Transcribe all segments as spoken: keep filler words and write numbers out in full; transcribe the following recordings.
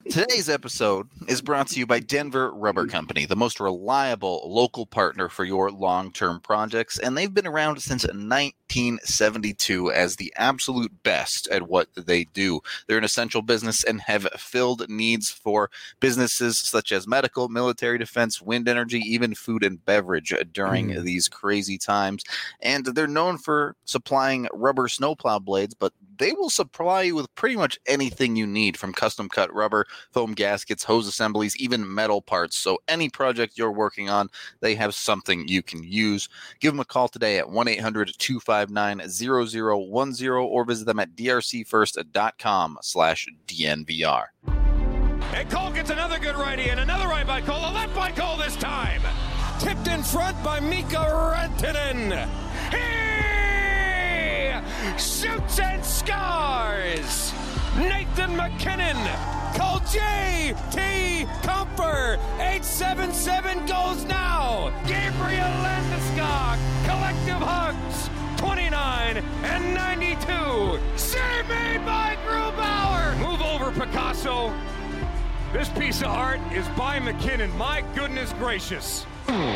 Today's episode is brought to you by Denver Rubber Company, the most reliable local partner for your long-term projects, and they've been around since nineteen seventy-two as the absolute best at what they do. They're an essential business and have filled needs for businesses such as medical, military defense, wind energy, even food and beverage during mm. these crazy times. And they're known for supplying rubber snowplow blades, but they will supply you with pretty much anything you need, from custom cut rubber, foam gaskets, hose assemblies, even metal parts. So any project you're working on, they have something you can use. Give them a call today at one eight hundred two five nine zero zero one zero or visit them at drcfirst.com slash DNVR. And Cole gets another good righty and another right by Cole, a left by Cole this time. Tipped in front by Mika Rantanen. Shoots and scores! Nathan MacKinnon! Call J T Comfer! eight seven seven goes now! Gabriel Landeskog! Collective hugs! twenty-nine and ninety-two! Save made by Grubauer! Move over, Picasso! This piece of art is by MacKinnon. My goodness gracious!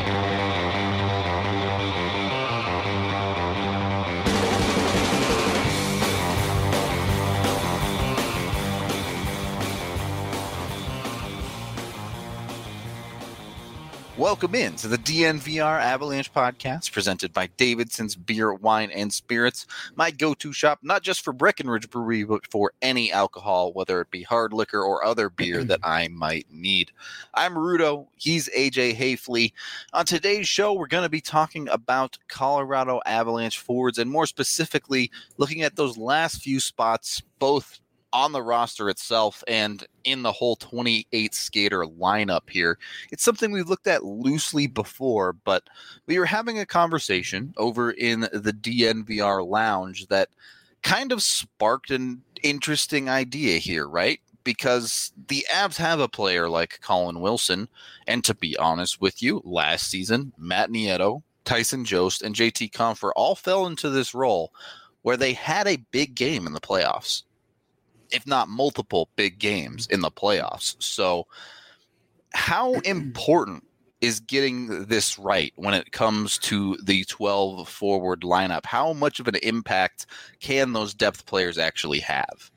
Welcome in to the D N V R Avalanche podcast presented by Davidson's Beer, Wine, and Spirits, my go-to shop, not just for Breckenridge Brewery, but for any alcohol, whether it be hard liquor or other beer that I might need. I'm Rudo. He's A J Hayfley. On today's show, we're going to be talking about Colorado Avalanche forwards, and more specifically, looking at those last few spots, both on the roster itself and in the whole twenty-eight skater lineup here. It's something we've looked at loosely before, but we were having a conversation over in the D N V R lounge that kind of sparked an interesting idea here, right? Because the Avs have a player like Colin Wilson, and to be honest with you, last season, Matt Nieto, Tyson Jost, and J T Compher all fell into this role where they had a big game in the playoffs, if not multiple big games in the playoffs. So how important is getting this right when it comes to the twelve forward lineup? How much of an impact can those depth players actually have?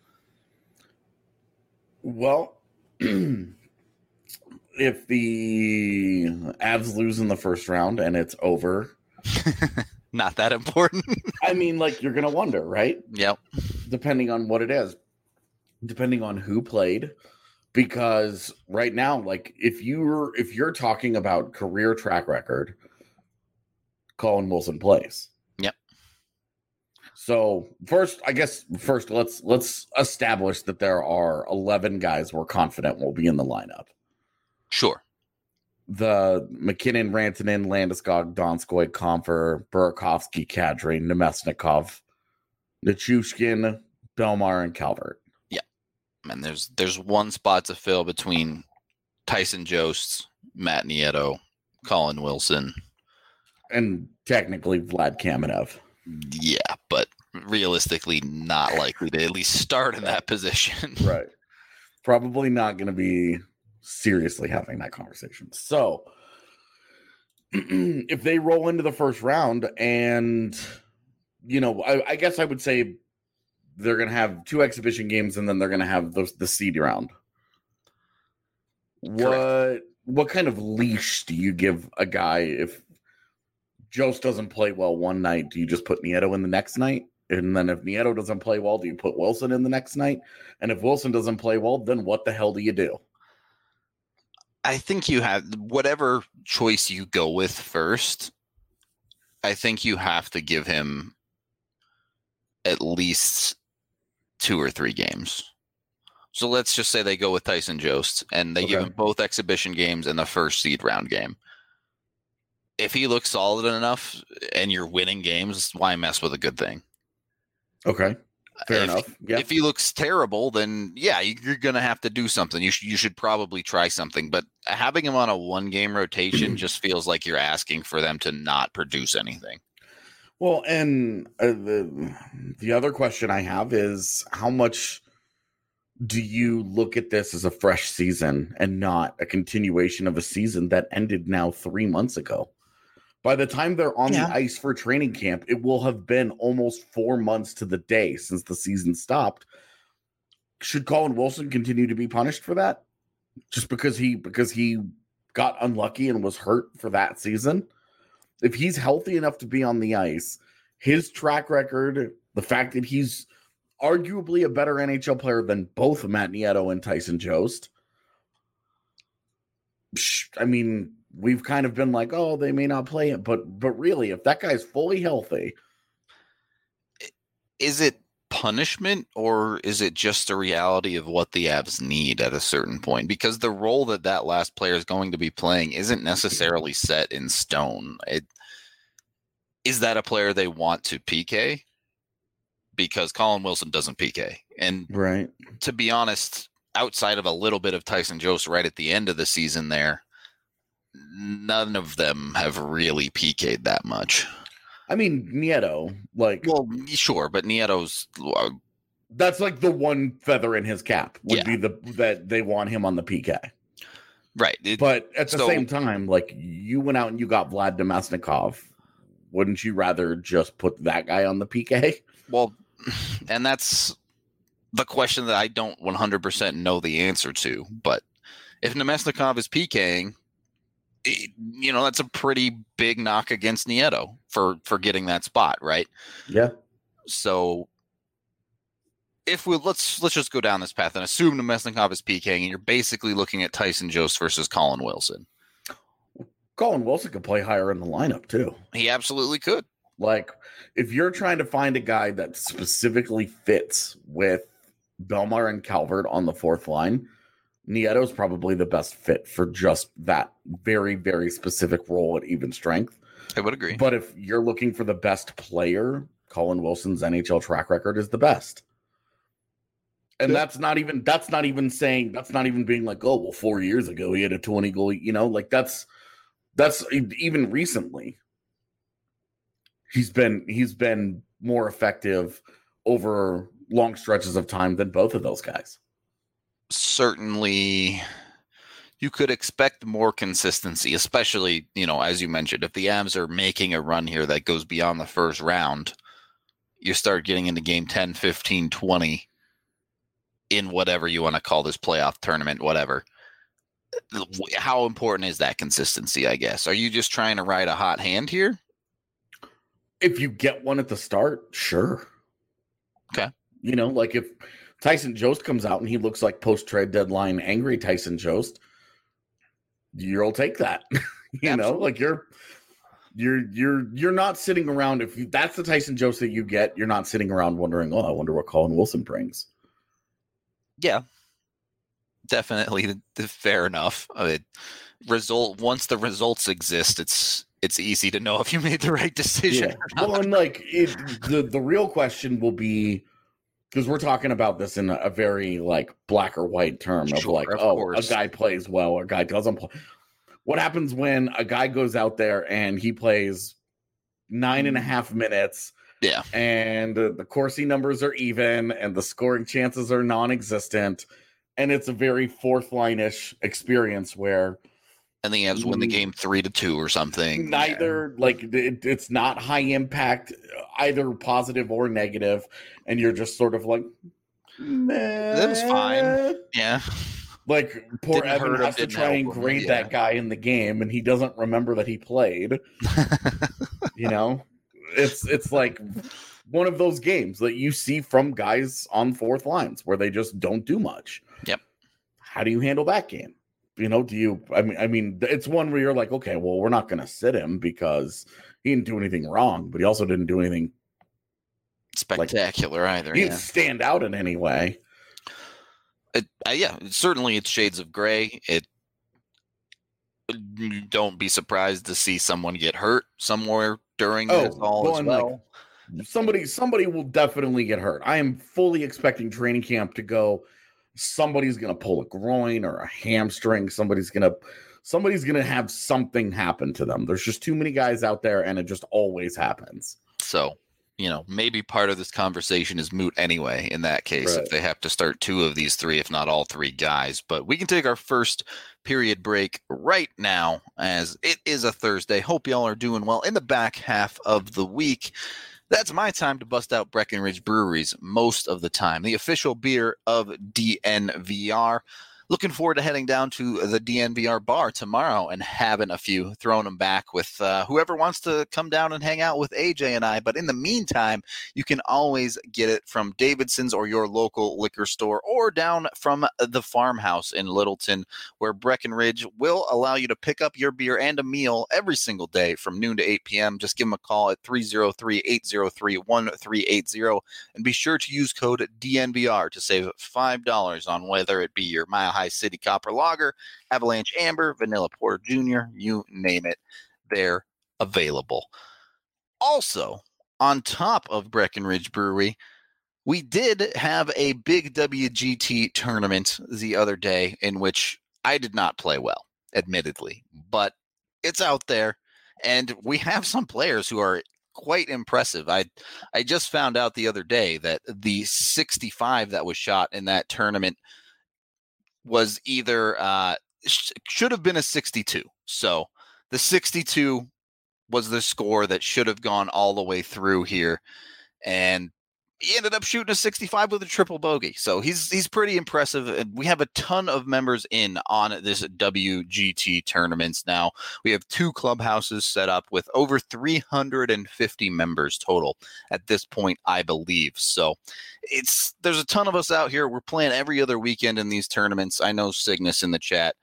Well, if the Avs lose in the first round and it's over, not that important. I mean, like, you're going to wonder, right? Yep. Depending on what it is. Depending on who played, because right now, like, if you're if you're talking about career track record, Colin Wilson plays. Yep. So first, I guess first let's let's establish that there are eleven guys we're confident will be in the lineup. Sure. The MacKinnon, Rantanen, Landeskog, Donskoy, Compher, Burakovsky, Kadri, Nemesnikov, Nichushkin, Belmar, and Calvert. And there's there's one spot to fill between Tyson Jost, Matt Nieto, Colin Wilson, and technically Vlad Kamenev. Yeah, but realistically not likely to at least start in that position. Right. Probably not going to be seriously having that conversation. So if they roll into the first round and, you know, I, I guess I would say they're going to have two exhibition games, and then they're going to have the, the seed round. Correct. What what kind of leash do you give a guy if Jost doesn't play well one night? Do you just put Nieto in the next night? And then if Nieto doesn't play well, do you put Wilson in the next night? And if Wilson doesn't play well, then what the hell do you do? I think you have whatever choice you go with first. I think you have to give him at least two or three games. So let's just say they go with Tyson Jost and they okay. give him both exhibition games and the first seed round game. If he looks solid enough and you're winning games, why mess with a good thing? Okay. Fair if, enough. Yeah. If he looks terrible, then yeah, you're going to have to do something. You should, you should probably try something, but having him on a one game rotation just feels like you're asking for them to not produce anything. Well, and uh, the the other question I have is how much do you look at this as a fresh season and not a continuation of a season that ended now three months ago? By the time they're on Yeah. the ice for training camp, it will have been almost four months to the day since the season stopped. Should Colin Wilson continue to be punished for that? Just because he because he got unlucky and was hurt for that season? If he's healthy enough to be on the ice, his track record, the fact that he's arguably a better N H L player than both Matt Nieto and Tyson Jost. I mean, we've kind of been like, oh, they may not play it, but but really, if that guy's fully healthy, is it punishment or is it just a reality of what the Avs need at a certain point? Because the role that that last player is going to be playing isn't necessarily set in stone. It is that a player they want to P K? Because Colin Wilson doesn't P K. And right. to be honest, outside of a little bit of Tyson Jost right at the end of the season there, none of them have really P K'd that much. I mean, Nieto, like... Well, sure, but Nieto's... Uh, that's like the one feather in his cap would yeah. be the that they want him on the P K. Right. It, but at the so, same time, like, you went out and you got Vlad Demesnikov. Wouldn't you rather just put that guy on the P K? Well, and that's the question that I don't one hundred percent know the answer to. But if Nemesnikov is PKing, it, you know, that's a pretty big knock against Nieto for, for getting that spot, right? Yeah. So if we let's let's just go down this path and assume Nemesnikov is PKing, and you're basically looking at Tyson Jost versus Colin Wilson. Colin Wilson could play higher in the lineup too. He absolutely could. Like, if you're trying to find a guy that specifically fits with Belmar and Calvert on the fourth line, Nieto's probably the best fit for just that very, very specific role at even strength. I would agree. But if you're looking for the best player, Colin Wilson's N H L track record is the best. And yeah. that's not even that's not even saying that's not even being like, oh, well, four years ago he had a twenty goal, you know, like that's that's even recently. He's been he's been more effective over long stretches of time than both of those guys. Certainly, you could expect more consistency, especially, you know, as you mentioned, if the Avs are making a run here that goes beyond the first round, you start getting into game ten, fifteen, twenty in whatever you want to call this playoff tournament, whatever. How important is that consistency, I guess? Are you just trying to ride a hot hand here? If you get one at the start, sure. Okay. You know, like if Tyson Jost comes out and he looks like post-trade deadline angry Tyson Jost, you'll take that. you Absolutely. know, like you're you're you're you're not sitting around if you, that's the Tyson Jost that you get, you're not sitting around wondering, oh, I wonder what Colin Wilson brings. Yeah. Definitely fair enough. I mean, result once the results exist, it's it's easy to know if you made the right decision. Yeah. Well, and like it, the the real question will be, because we're talking about this in a, a very like black or white term of sure, like, of oh, course. a guy plays well or a guy doesn't play. What happens when a guy goes out there and he plays nine and a half minutes? Yeah, and uh, the Corsi numbers are even, and the scoring chances are non-existent, and it's a very fourth line-ish experience where. And the Avs win the game three to two or something. Neither, yeah. like it, it's not high impact, either positive or negative, and you're just sort of like, meh. That was fine. Yeah, like poor didn't Evan him, has to try and grade yeah. that guy in the game, and he doesn't remember that he played. you know, it's it's like one of those games that you see from guys on fourth lines where they just don't do much. Yep. How do you handle that game? You know, do you, I mean, I mean, it's one where you're like, okay, well, we're not going to sit him because he didn't do anything wrong, but he also didn't do anything spectacular like, either. He yeah. didn't stand out in any way. It, uh, yeah, certainly it's shades of gray. It, don't be surprised to see someone get hurt somewhere during oh, this all well, as well. Like, somebody, somebody will definitely get hurt. I am fully expecting training camp to go. Somebody's going to pull a groin or a hamstring. Somebody's going to, somebody's going to have something happen to them. There's just too many guys out there and it just always happens. So, you know, maybe part of this conversation is moot anyway in that case, Right. if they have to start two of these three, if not all three guys. But we can take our first period break right now as it is a Thursday. Hope y'all are doing well in the back half of the week. That's my time to bust out Breckenridge Breweries most of the time, the official beer of D N V R. Looking forward to heading down to the D N V R bar tomorrow and having a few, throwing them back with uh, whoever wants to come down and hang out with A J and I. But in the meantime, you can always get it from Davidson's or your local liquor store or down from the farmhouse in Littleton, where Breckenridge will allow you to pick up your beer and a meal every single day from noon to eight p.m. Just give them a call at three oh three, eight oh three, one three eight oh and be sure to use code D N V R to save five dollars on whether it be your Mile High City Copper Lager, Avalanche Amber, Vanilla Porter Junior, you name it, they're available. Also, on top of Breckenridge Brewery, we did have a big W G T tournament the other day in which I did not play well, admittedly, but it's out there, and we have some players who are quite impressive. I I just found out the other day that the sixty-five that was shot in that tournament was either uh, sh- should have been a sixty-two. So the sixty-two was the score that should have gone all the way through here, and he ended up shooting a sixty-five with a triple bogey. So he's he's pretty impressive. And we have a ton of members in on this W G T tournaments now. We have two clubhouses set up with over three hundred fifty members total at this point, I believe. So it's there's a ton of us out here. We're playing every other weekend in these tournaments. I know Cygnus in the chat.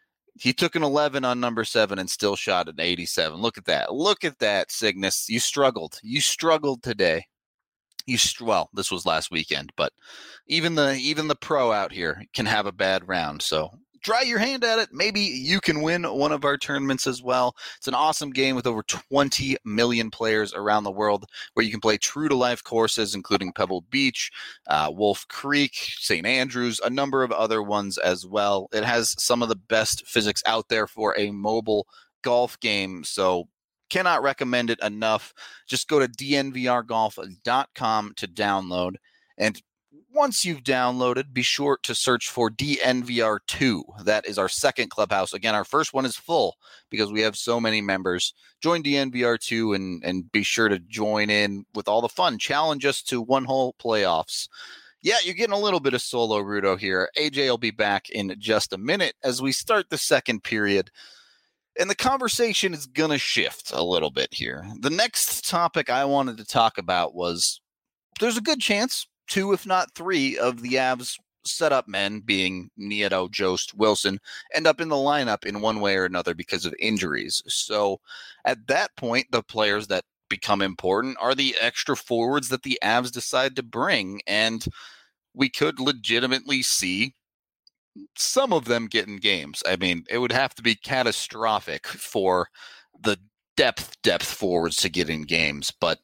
He took an eleven on number seven and still shot an eighty-seven. Look at that. Look at that, Cygnus. You struggled. You struggled today. You well, this was last weekend, but even the even the pro out here can have a bad round. So try your hand at it. Maybe you can win one of our tournaments as well. It's an awesome game with over twenty million players around the world where you can play true to life courses, including Pebble Beach, uh, Wolf Creek, Saint Andrews, a number of other ones as well. It has some of the best physics out there for a mobile golf game. So cannot recommend it enough. Just go to D N V R golf dot com to download. And once you've downloaded, be sure to search for D N V R two. That is our second clubhouse. Again, our first one is full because we have so many members. Join D N V R two and, and be sure to join in with all the fun. Challenge us to one-hole playoffs. Yeah, you're getting a little bit of solo Rudo here. A J will be back in just a minute as we start the second period. And the conversation is going to shift a little bit here. The next topic I wanted to talk about was there's a good chance two, if not three, of the Avs setup men, being Nieto, Jost, Wilson, end up in the lineup in one way or another because of injuries. So at that point, the players that become important are the extra forwards that the Avs decide to bring. And we could legitimately see some of them get in games. I mean, it would have to be catastrophic for the depth, depth forwards to get in games. But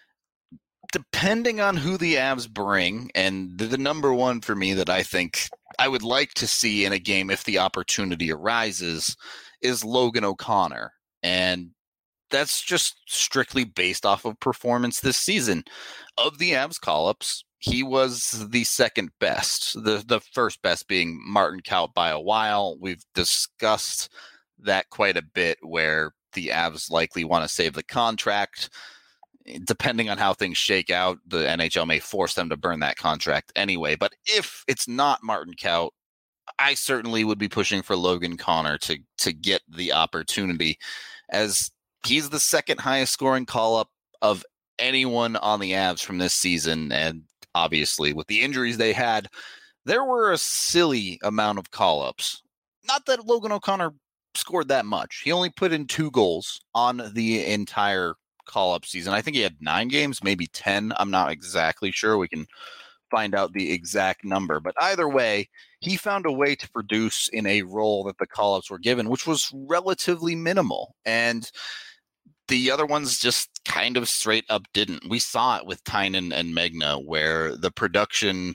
depending on who the Avs bring, and the, the number one for me that I think I would like to see in a game if the opportunity arises is Logan O'Connor. And that's just strictly based off of performance this season. Of the Avs call-ups, he was the second best, the the first best being Martin Kaut by a while. We've discussed that quite a bit, where the Avs likely want to save the contract. Depending on how things shake out, the N H L may force them to burn that contract anyway. But if it's not Martin Kaut, I certainly would be pushing for Logan Connor to to get the opportunity, as he's the second highest scoring call-up of anyone on the Avs from this season. And obviously, with the injuries they had, there were a silly amount of call-ups. Not that Logan O'Connor scored that much. He only put in two goals on the entire call-up season. I think he had nine games, maybe ten. I'm not exactly sure. We can find out the exact number. But either way, he found a way to produce in a role that the call-ups were given, which was relatively minimal. And the other ones just kind of straight up didn't. We saw it with Tynan and Megna, where the production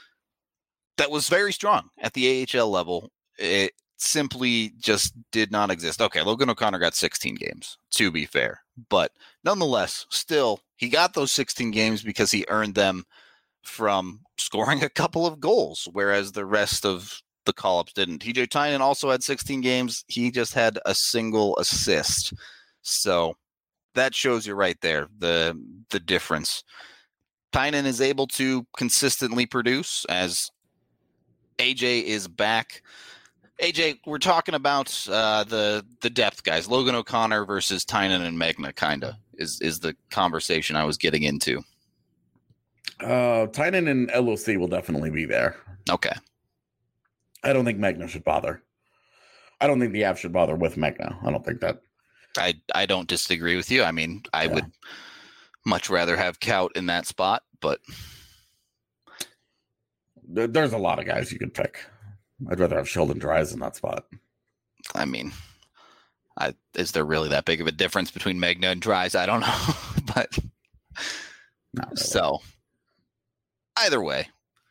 that was very strong at the A H L level, it simply just did not exist. Okay, Logan O'Connor got sixteen games, to be fair. But nonetheless, still, he got those sixteen games because he earned them from scoring a couple of goals, whereas the rest of the call-ups didn't. T J Tynan also had sixteen games. He just had a single assist. So that shows you right there the the difference. Tynan is able to consistently produce as A J is back. A J, we're talking about uh, the the depth guys, Logan O'Connor versus Tynan and Magna, kinda is is the conversation I was getting into. Uh, Tynan and L O C will definitely be there. Okay, I don't think Magna should bother. I don't think the Avs should bother with Magna. I don't think that. I I don't disagree with you. I mean, I yeah. would much rather have Kaut in that spot, but there's a lot of guys you could pick. I'd rather have Sheldon Dries in that spot. I mean, I, is there really that big of a difference between Magna and Dries? I don't know, but Not really. So either way,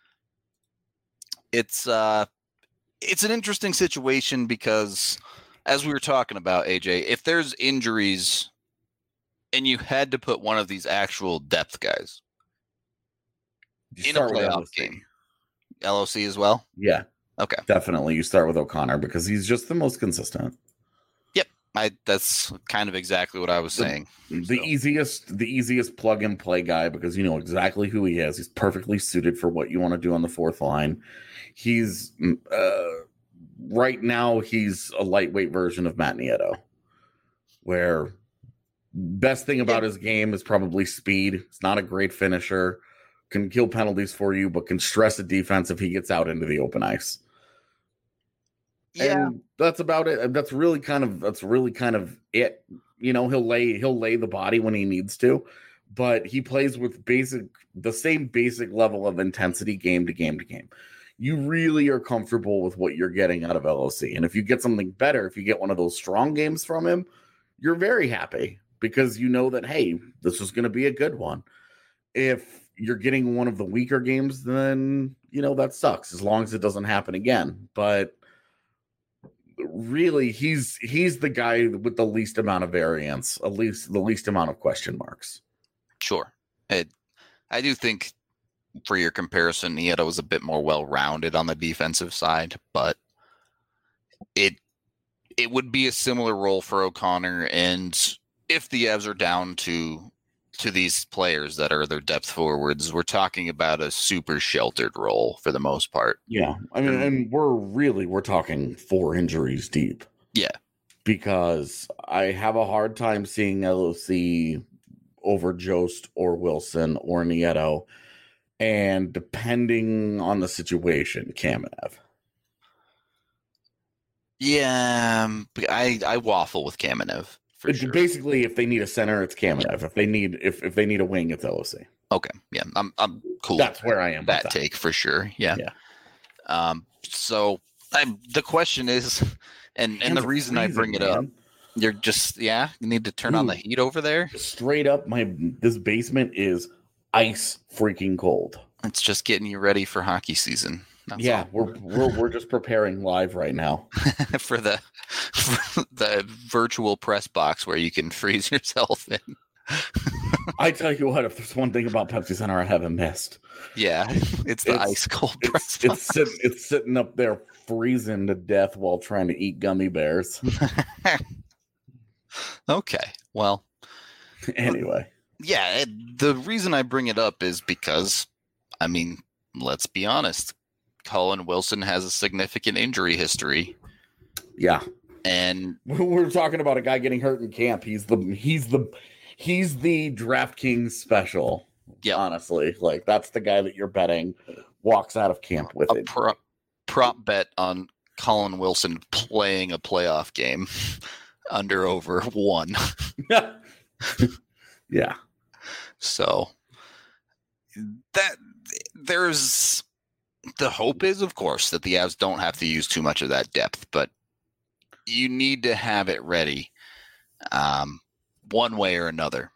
it's uh, it's an interesting situation because, as we were talking about, A J, if there's injuries and you had to put one of these actual depth guys You in a start with playoff L O C. game, L O C as well? Yeah, Okay. definitely. You start with O'Connor because he's just the most consistent. Yep. I that's kind of exactly what I was saying. The So, easiest, the easiest plug and play guy because you know exactly who he is. He's perfectly suited for what you want to do on the fourth line. He's uh, right now he's a lightweight version of Matt Nieto, where best thing about Yeah. his game is probably speed. It's not a great finisher, can kill penalties for you, but can stress a defense if he gets out into the open ice. yeah. And that's about it. That's really kind of that's really kind of it. You know, he'll lay he'll lay the body when he needs to, but he plays with basic the same basic level of intensity game to game to game. You really are comfortable with what you're getting out of L O C. And if you get something better, if you get one of those strong games from him, you're very happy because you know that, hey, this is going to be a good one. If you're getting one of the weaker games, then, you know, that sucks as long as it doesn't happen again. But really, he's he's the guy with the least amount of variance, at least the least amount of question marks. Sure. It, I do think for your comparison, Nieto was a bit more well-rounded on the defensive side, but it it would be a similar role for O'Connor. And if the Avs are down to to these players that are their depth forwards, we're talking about a super sheltered role for the most part. Yeah, I mean, and we're really we're talking four injuries deep. Yeah, because I have a hard time seeing L O C over Jost or Wilson or Nieto, and depending on the situation, Kamenev. Yeah, um, I I waffle with Kamenev. For It's sure. basically, if they need a center, it's Kamenev. If they need if, if they need a wing, it's L O C. Okay, yeah, I'm I'm cool. That's with where I am. that, with that take for sure. Yeah. Yeah. Um. So I the question is, and and Hands the are reason I bring it freezing, up, man. you're just yeah, you need to turn on the Dude. heat over there. Straight up, my this basement is ice freaking cold. It's just getting you ready for hockey season. That's yeah, all. we're we're we're just preparing live right now. for the for the virtual press box where you can freeze yourself in. I tell you what, if there's one thing about Pepsi Center I haven't missed, Yeah, it's the It's- ice cold press it's it's sitting it's sitting up there freezing to death while trying to eat gummy bears. box. Okay, well, Anyway, yeah, it, the reason I bring it up is because, I mean, let's be honest, Colin Wilson has a significant injury history, yeah, and we're talking about a guy getting hurt in camp. He's the he's the he's the DraftKings special. Yeah. honestly, like that's the guy that you're betting walks out of camp with a it. prop, prop bet on Colin Wilson playing a playoff game under over one. Yeah, So that there's the hope is, of course, that the Avs don't have to use too much of that depth, but you need to have it ready, um, one way or another.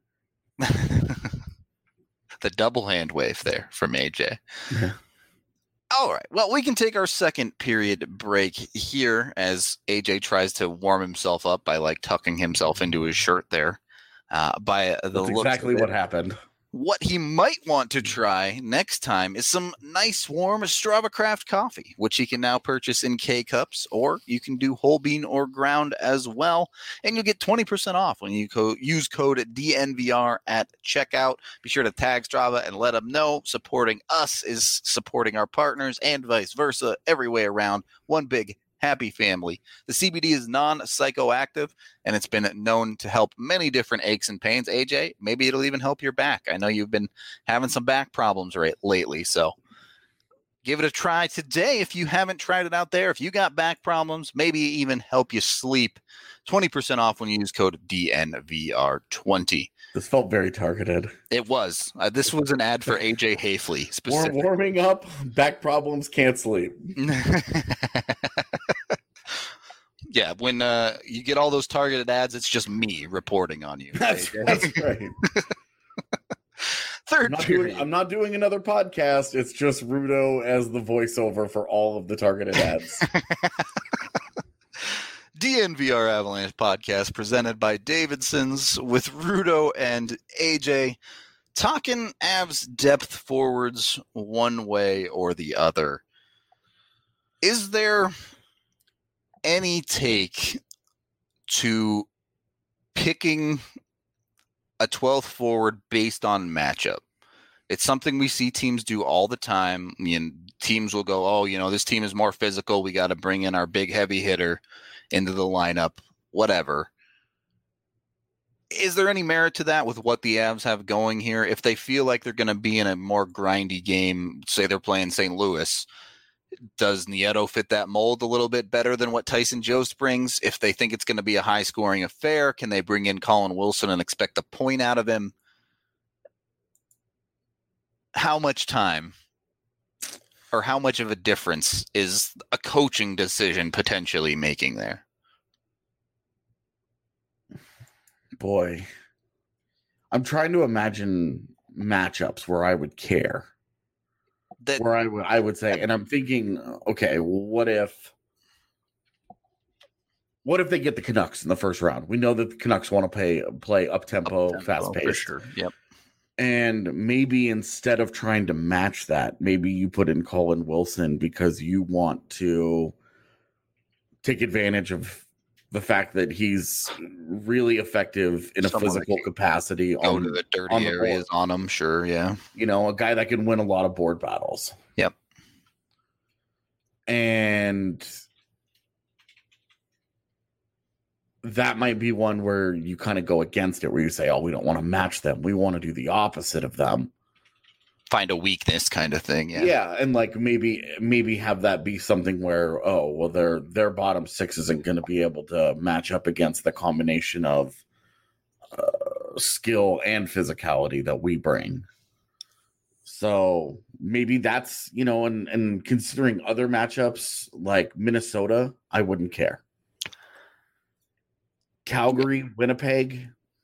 The double hand wave there from A J. Yeah. All right. Well, we can take our second period break here as A J tries to warm himself up by like tucking himself into his shirt there. uh, by the That's looks exactly of it. what happened. What he might want to try next time is some nice warm Strava Craft coffee, which he can now purchase in K-Cups, or you can do whole bean or ground as well. And you'll get twenty percent off when you co- use code D N V R at checkout. Be sure to tag Strava and let them know supporting us is supporting our partners and vice versa, every way around. One big happy family. The C B D is non-psychoactive, and it's been known to help many different aches and pains. A J, maybe it'll even help your back. I know you've been having some back problems right lately, so give it a try today if you haven't tried it out there. If you got back problems, maybe even help you sleep. twenty percent off when you use code D N V R twenty. This felt very targeted. It was. Uh, this was an ad for A J Hafley specifically. Warming up, back problems, can't sleep. Yeah, when uh, you get all those targeted ads, it's just me reporting on you. That's, that's right. Third I'm not, period. doing, I'm not doing another podcast. It's just Rudo as the voiceover for all of the targeted ads. D N V R Avalanche podcast presented by Davidson's with Rudo and A J talking Avs depth forwards one way or the other. Is there any take to picking a twelfth forward based on matchup? It's something we see teams do all the time. I mean, teams will go, oh, you know, this team is more physical. We got to bring in our big heavy hitter into the lineup, whatever. Is there any merit to that with what the Avs have going here? If they feel like they're going to be in a more grindy game, say they're playing Saint Louis, does Nieto fit that mold a little bit better than what Tyson Jost brings? If they think it's going to be a high-scoring affair, can they bring in Colin Wilson and expect a point out of him? How much time or how much of a difference is a coaching decision potentially making there? Boy, I'm trying to imagine matchups where I would care. That, where I would I would say, and I'm thinking, okay, what if what if they get the Canucks in the first round? We know that the Canucks want to play play up tempo, fast paced. For sure. Yep. And maybe instead of trying to match that, maybe you put in Colin Wilson because you want to take advantage of the fact that he's really effective in a Someone physical capacity. Go on to the dirty on the areas board. on him, sure, yeah. You know, a guy that can win a lot of board battles. Yep. And that might be one where you kind of go against it, where you say, oh, we don't want to match them. We want to do the opposite of them. Find a weakness kind of thing, yeah. Yeah, and like maybe maybe have that be something where, oh, well, their their bottom six isn't going to be able to match up against the combination of uh, skill and physicality that we bring. So maybe that's, you know, and, and considering other matchups like Minnesota, I wouldn't care. Calgary, Winnipeg,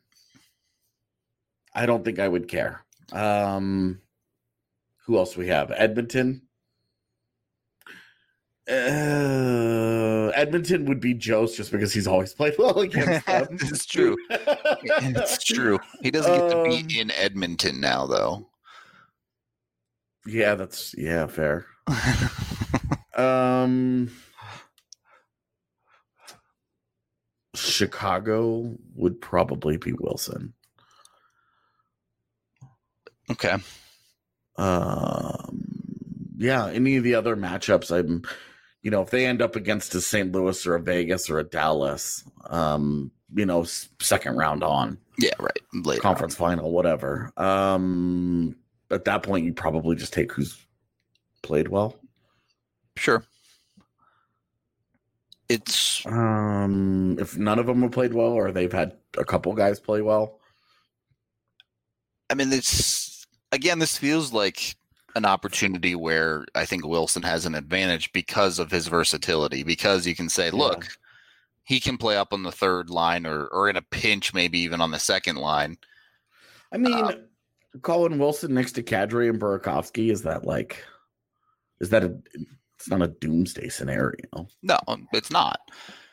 I don't think I would care. Um, who else we have? Edmonton. Uh, Edmonton would be Jost just because he's always played well against them. It's true. It's true. He doesn't get to Um, be in Edmonton now, though. Yeah, that's yeah, fair. um, Chicago would probably be Wilson. Okay. Um, yeah, any of the other matchups, I'm, you know, if they end up against a Saint Louis or a Vegas or a Dallas, um, you know, s- second round on Yeah, right. Later conference final, whatever. Um, at that point, you probably just take who's played well. on. Sure. It's Um, if none of them have played well, or they've had a couple guys play well. I mean, it's again, this feels like an opportunity where I think Wilson has an advantage because of his versatility, because you can say, look, Yeah. he can play up on the third line or, or in a pinch, maybe even on the second line. I mean, Um, Colin Wilson next to Kadri and Burakovsky, is that like, is that a, it's not a doomsday scenario. No, it's not.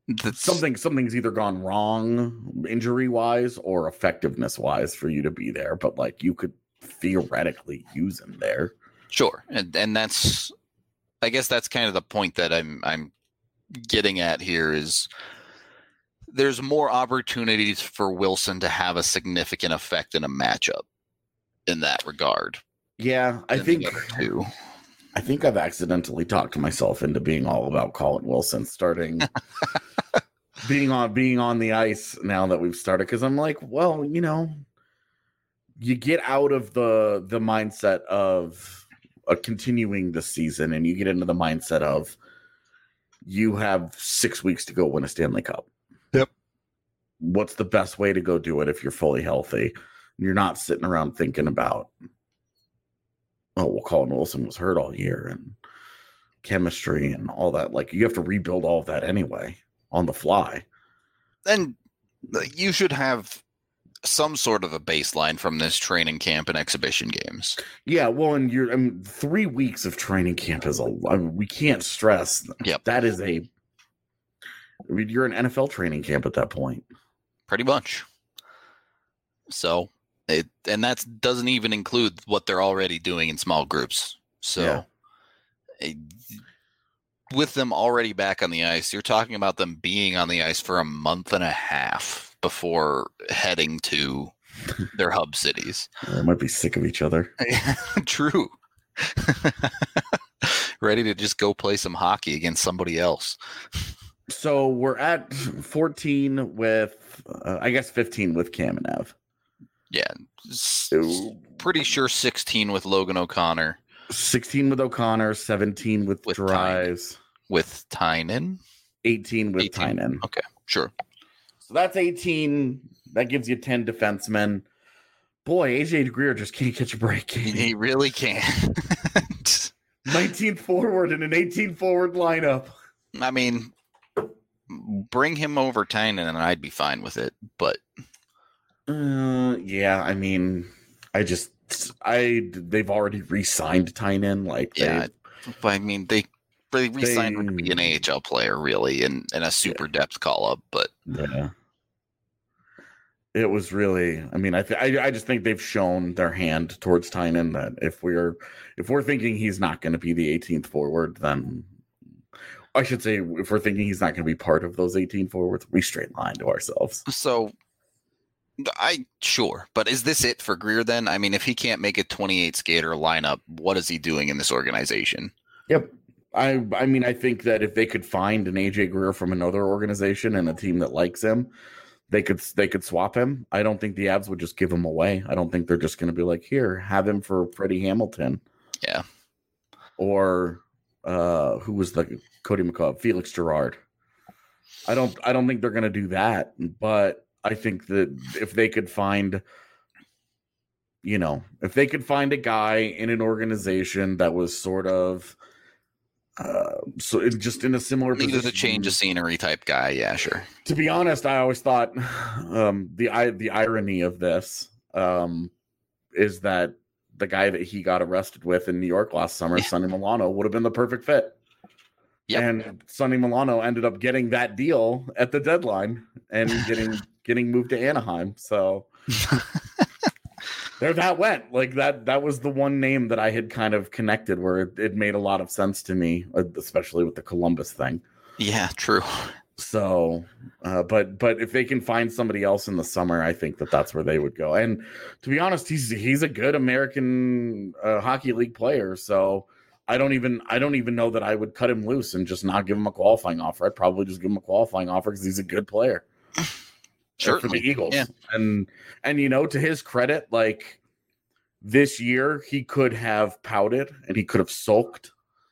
That's, something something's either gone wrong injury wise or effectiveness wise for you to be there. But like you could theoretically use him there. Sure, and and that's, I guess that's kind of the point that I'm I'm getting at here is there's more opportunities for Wilson to have a significant effect in a matchup in that regard. Yeah, I think too. I think I've accidentally talked myself into being all about Colin Wilson starting being on being on the ice now that we've started, because I'm like, well, you know, you get out of the the mindset of uh, continuing the season and you get into the mindset of you have six weeks to go win a Stanley Cup. Yep. What's the best way to go do it if you're fully healthy? You're not sitting around thinking about, oh, well, Colin Wilson was hurt all year and chemistry and all that. Like, you have to rebuild all of that anyway on the fly. And you should have some sort of a baseline from this training camp and exhibition games. Yeah, well, and you're I mean, three weeks of training camp is a I mean, we can't stress. Yep. That is a. I mean, you're an N F L training camp at that point. Pretty much. So. It, and that doesn't even include what they're already doing in small groups. So Yeah. it, with them already back on the ice, you're talking about them being on the ice for a month and a half before heading to their hub cities. They might be sick of each other. True. Ready to just go play some hockey against somebody else. So we're at fourteen with, uh, I guess, fifteen with Cam and Ev. Yeah, s- pretty sure sixteen with Logan O'Connor. sixteen with O'Connor, seventeen with, With Dries, With Tynan? eighteen with eighteen. Tynan. Okay, sure. So that's eighteen. That gives you ten defensemen. Boy, A J Greer just can't catch a break. He really can't. nineteenth forward in an eighteen forward lineup. I mean, bring him over Tynan and I'd be fine with it, but Uh, yeah, I mean, I just, I, they've already re-signed Tynan. Like, they, yeah, but I mean, they they re-signed him to They- be an A H L player, really, and, and a super depth call-up, but yeah. It was really, I mean, I, th- I I just think they've shown their hand towards Tynan that if we're if we're thinking he's not going to be the eighteenth forward, then I should say if we're thinking he's not going to be part of those eighteen forwards, we straight line to ourselves. so I sure, but is this it for Greer then? I mean, if he can't make a twenty-eight skater lineup, what is he doing in this organization? Yep. I I mean, I think that if they could find an A J Greer from another organization and a team that likes him, they could they could swap him. I don't think the Avs would just give him away. I don't think they're just going to be like, here, have him for Freddie Hamilton. Yeah. Or uh, who was the Cody McCall? Felix Gerard. I don't I don't think they're going to do that, but I think that if they could find, you know, if they could find a guy in an organization that was sort of uh, so it, just in a similar Needed position, a change of scenery type guy, yeah, sure. to be honest, I always thought um, the I, the irony of this um, is that the guy that he got arrested with in New York last summer, Yeah. Sonny Milano, would have been the perfect fit. Yep. And Sonny Milano ended up getting that deal at the deadline and getting getting moved to Anaheim. So there that went. Like that that was the one name that I had kind of connected where it, it made a lot of sense to me, especially with the Columbus thing. Yeah, true. So, uh, but but if they can find somebody else in the summer, I think that that's where they would go. And to be honest, he's he's a good American uh, Hockey League player. So I don't even I don't even know that I would cut him loose and just not give him a qualifying offer. I'd probably just give him a qualifying offer because he's a good player. Sure, for the Eagles. Yeah. And and you know, to his credit, like this year he could have pouted and he could have sulked.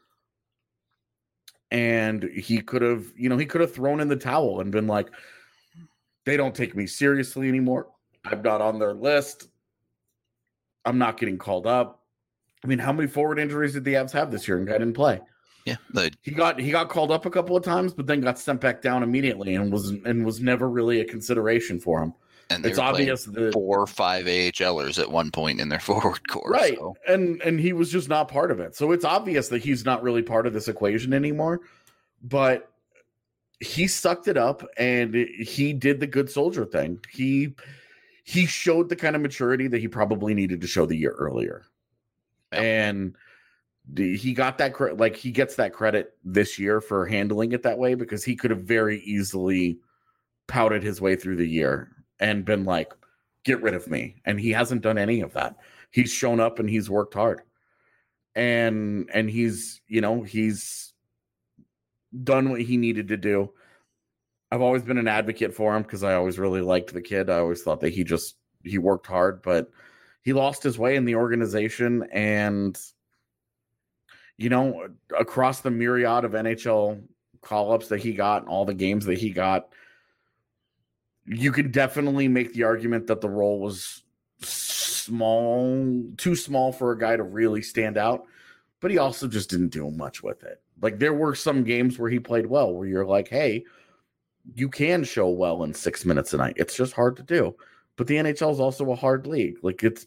And he could have, you know, he could have thrown in the towel and been like, they don't take me seriously anymore. I'm not on their list. I'm not getting called up. I mean, how many forward injuries did the Avs have this year and guy didn't play? Yeah, the, He got he got called up a couple of times, but then got sent back down immediately and was and was never really a consideration for him. and they It's were playing obvious that four or five AHLers at one point in their forward core. right, So. and and he was just not part of it. So it's obvious that he's not really part of this equation anymore. But he sucked it up and he did the good soldier thing. He he showed the kind of maturity that he probably needed to show the year earlier. Yeah. And he got that cre- like he gets that credit this year for handling it that way, because he could have very easily pouted his way through the year and been like, get rid of me. And he hasn't done any of that. He's shown up and he's worked hard. And and he's, you know, he's done what he needed to do. I've always been an advocate for him because I always really liked the kid. I always thought that he just he worked hard, but he lost his way in the organization. And you know, across the myriad of N H L call-ups that he got and all the games that he got, you could definitely make the argument that the role was small, too small for a guy to really stand out, but he also just didn't do much with it. Like, there were some games where he played well, where you're like, hey, you can show well in six minutes a night. It's just hard to do. But the N H L is also a hard league. Like, it's,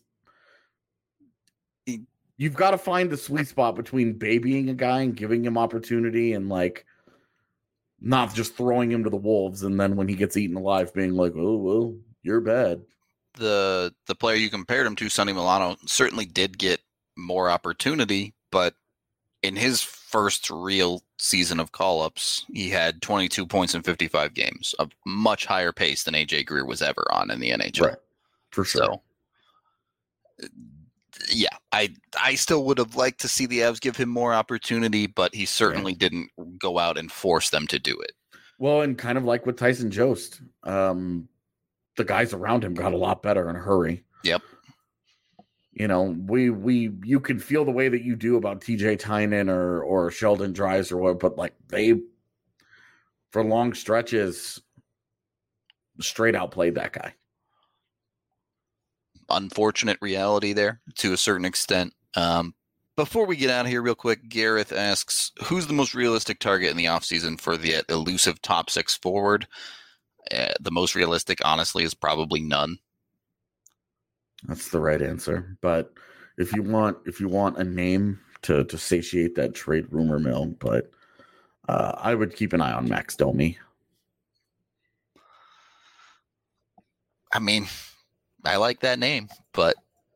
you've got to find the sweet spot between babying a guy and giving him opportunity and, like, not just throwing him to the wolves and then when he gets eaten alive being like, oh, well, you're bad. The the player you compared him to, Sonny Milano, certainly did get more opportunity, but in his first real season of call-ups, he had twenty-two points in fifty-five games, a much higher pace than A J Greer was ever on in the N H L. Right. For sure. So, yeah, I I still would have liked to see the Avs give him more opportunity, but he certainly yeah. didn't go out and force them to do it. Well, and kind of like with Tyson Jost, um, the guys around him got a lot better in a hurry. Yep. You know, we we you can feel the way that you do about T J Tynan or or Sheldon Dries or what, but like they, for long stretches, straight out played that guy. Unfortunate reality there to a certain extent. Um, before we get out of here real quick, Gareth asks, who's the most realistic target in the offseason for the elusive top six forward? Uh, the most realistic, honestly, is probably none. That's the right answer. But if you want if you want a name to, to satiate that trade rumor mill, but uh, I would keep an eye on Max Domi. I mean, I like that name, but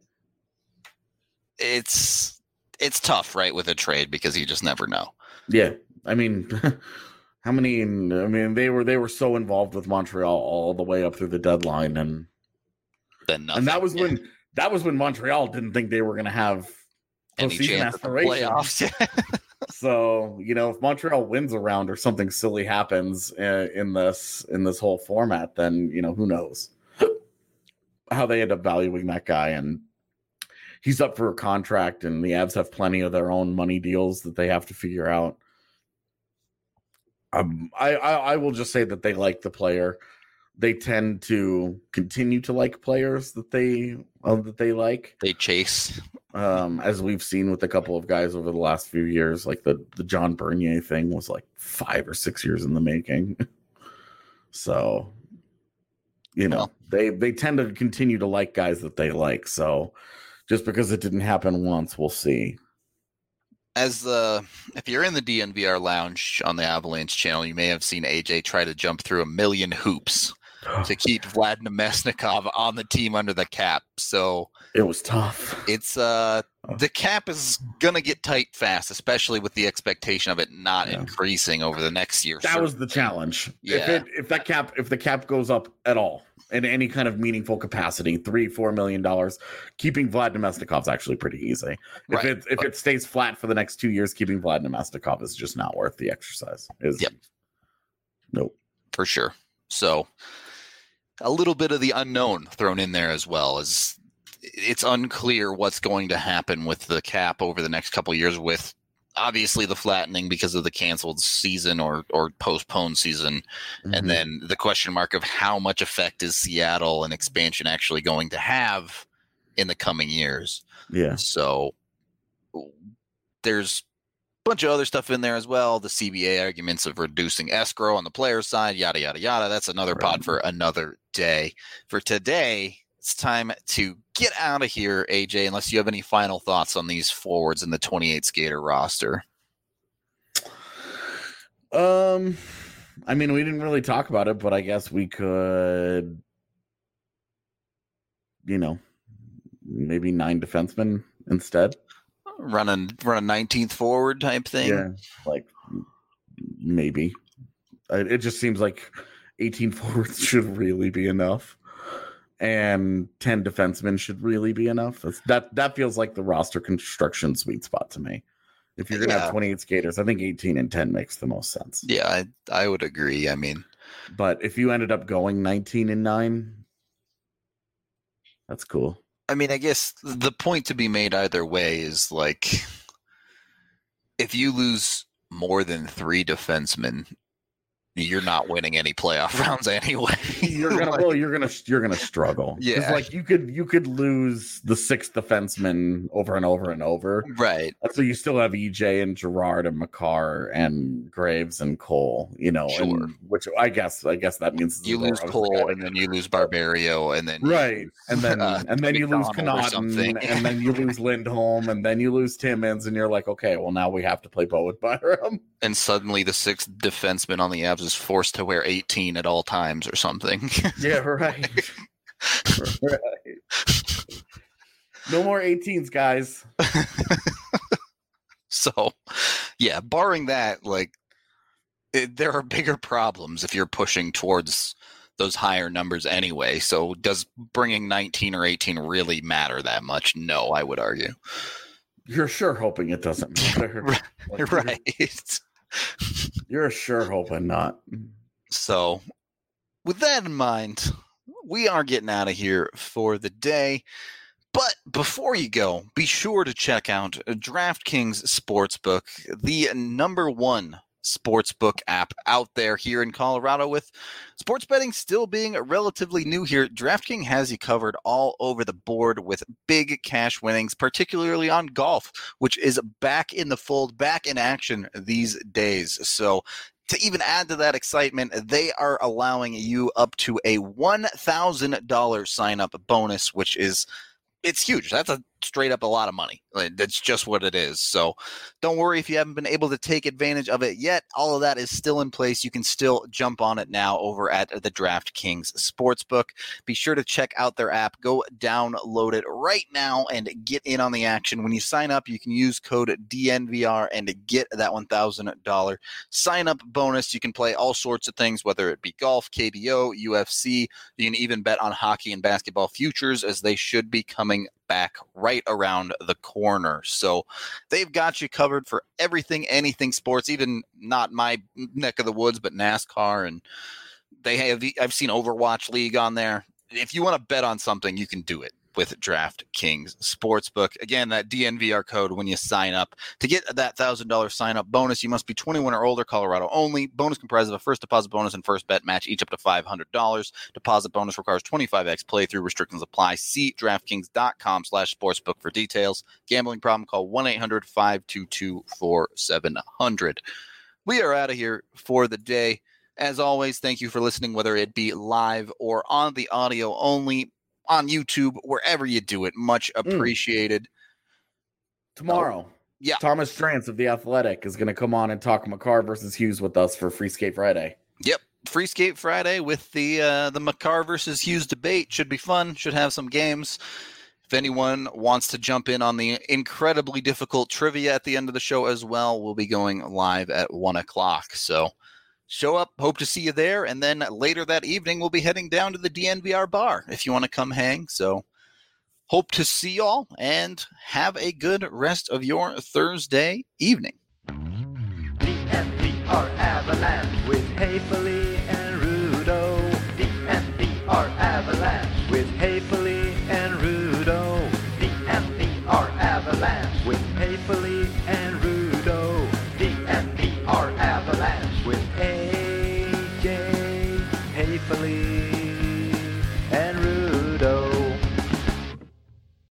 it's it's tough, right, with a trade because you just never know. Yeah, I mean, how many? I mean, they were they were so involved with Montreal all the way up through the deadline, and then nothing. And that was yeah. when that was when Montreal didn't think they were going to have any chance of the playoffs. So, you know, if Montreal wins a round or something silly happens in, in this in this whole format, then you know who knows how they end up valuing that guy. And he's up for a contract, and the Avs have plenty of their own money deals that they have to figure out. Um, I, I, I will just say that they like the player. They tend to continue to like players that they uh, that they like. They chase, um, as we've seen with a couple of guys over the last few years. Like the the John Bernier thing was like five or six years in the making. So, you know, well, they they tend to continue to like guys that they like. So, just because it didn't happen once, we'll see. As the if you're in the D N V R lounge on the Avalanche channel, you may have seen A J try to jump through a million hoops to keep Vlad Namestnikov on the team under the cap. So it was tough. It's uh the cap is gonna get tight fast, especially with the expectation of it not yeah. increasing over the next year. That was the challenge. Yeah. If it if that cap if the cap goes up at all in any kind of meaningful capacity, three, four million dollars, keeping Vlad Namestnikov is actually pretty easy. If right. it if but, it stays flat for the next two years, keeping Vlad Namestnikov is just not worth the exercise. Is yep. Nope. For sure. So a little bit of the unknown thrown in there as well, as it's unclear what's going to happen with the cap over the next couple of years, with obviously the flattening because of the canceled season or or postponed season. Mm-hmm. And then the question mark of how much effect is Seattle and expansion actually going to have in the coming years. Yeah. So there's a bunch of other stuff in there as well. The C B A arguments of reducing escrow on the player's side, yada, yada, yada. That's another right. pod for another day. For today, it's time to get out of here, A J, unless you have any final thoughts on these forwards in the twenty-eight skater roster. Um, I mean, we didn't really talk about it, but I guess we could, you know, maybe nine defensemen instead. Run a, run a nineteenth forward type thing. Yeah, like maybe. It just seems like eighteen forwards should really be enough. And ten defensemen should really be enough. That's, that that feels like the roster construction sweet spot to me. If you're gonna Yeah. have twenty-eight skaters, I think eighteen and ten makes the most sense. Yeah, I, I would agree. I mean, But if you ended up going nineteen and nine, that's cool. I mean, I guess the point to be made either way is like, if you lose more than three defensemen, you're not winning any playoff rounds anyway. You're gonna Like, well, you're gonna you're gonna struggle. 'Cause, Yeah. like you could you could lose the sixth defenseman over and over and over. right. So you still have E J and Gerard and McCarr and Graves and Cole, you know, Sure. and, which I guess I guess that means You lose I was Cole, forgetting. and then you lose Barbario, and then you right, lose, and then uh, and then you lose McDonald or something. Connaughton, and then you lose Lindholm, and then you lose Timmins, and you're like, okay, well now we have to play Bowen Byram. and suddenly the sixth defenseman on the Avs is forced to wear eighteen at all times or something. Yeah, right. Right. No more eighteens, guys. So, yeah, barring that, like, it, there are bigger problems if you're pushing towards those higher numbers anyway. So, does bringing nineteen or eighteen really matter that much? No, I would argue. You're sure hoping it doesn't matter. Right. Like, you're- Right. You're sure hoping not. So, with that in mind, we are getting out of here for the day. But before you go, be sure to check out DraftKings Sportsbook, the number one sportsbook app out there here in Colorado. With sports betting still being relatively new here, DraftKings has you covered all over the board with big cash winnings, particularly on golf, which is back in the fold, back in action these days. So to even add to that excitement, they are allowing you up to a one thousand dollars sign-up bonus, which is it's huge. That's a straight up a lot of money. Like, that's just what it is. So don't worry if you haven't been able to take advantage of it yet. All of that is still in place. You can still jump on it now over at the DraftKings Sportsbook. Be sure to check out their app. Go download it right now and get in on the action. When you sign up, you can use code D N V R and get that one thousand dollars sign up bonus. You can play all sorts of things, whether it be golf, K B O, U F C. You can even bet on hockey and basketball futures, as they should be coming back right around the corner. So they've got you covered for everything, anything sports, even not my neck of the woods, but NASCAR. And they have, I've seen Overwatch League on there. If you want to bet on something, you can do it with DraftKings Sportsbook. Again, that D N V R code when you sign up. To get that one thousand dollars sign-up bonus, you must be twenty-one or older, Colorado only. Bonus comprises of a first deposit bonus and first bet match, each up to five hundred dollars. Deposit bonus requires twenty-five x playthrough. Restrictions apply. See DraftKings.com slash sportsbook for details. Gambling problem, call one eight hundred five two two four seven zero zero. We are out of here for the day. As always, thank you for listening, whether it be live or on the audio only, on YouTube, wherever you do it. Much appreciated. Tomorrow, Oh, yeah. Thomas Strantz of The Athletic is going to come on and talk McCarr versus Hughes with us for Free Skate Friday. Yep. Free Skate Friday with the uh, the McCarr versus Hughes debate. Should be fun. Should have some games. If anyone wants to jump in on the incredibly difficult trivia at the end of the show as well, we'll be going live at one o'clock. So show up. Hope to see you there. And then later that evening, we'll be heading down to the D N V R bar if you want to come hang. So hope to see y'all and have a good rest of your Thursday evening. D N V R Avalanche with Haefele and Rudo. D N V R Avalanche with Haefele and Rudo. D N V R Avalanche with Haefele and Rudo. D N V R Avalanche with A J Haefele.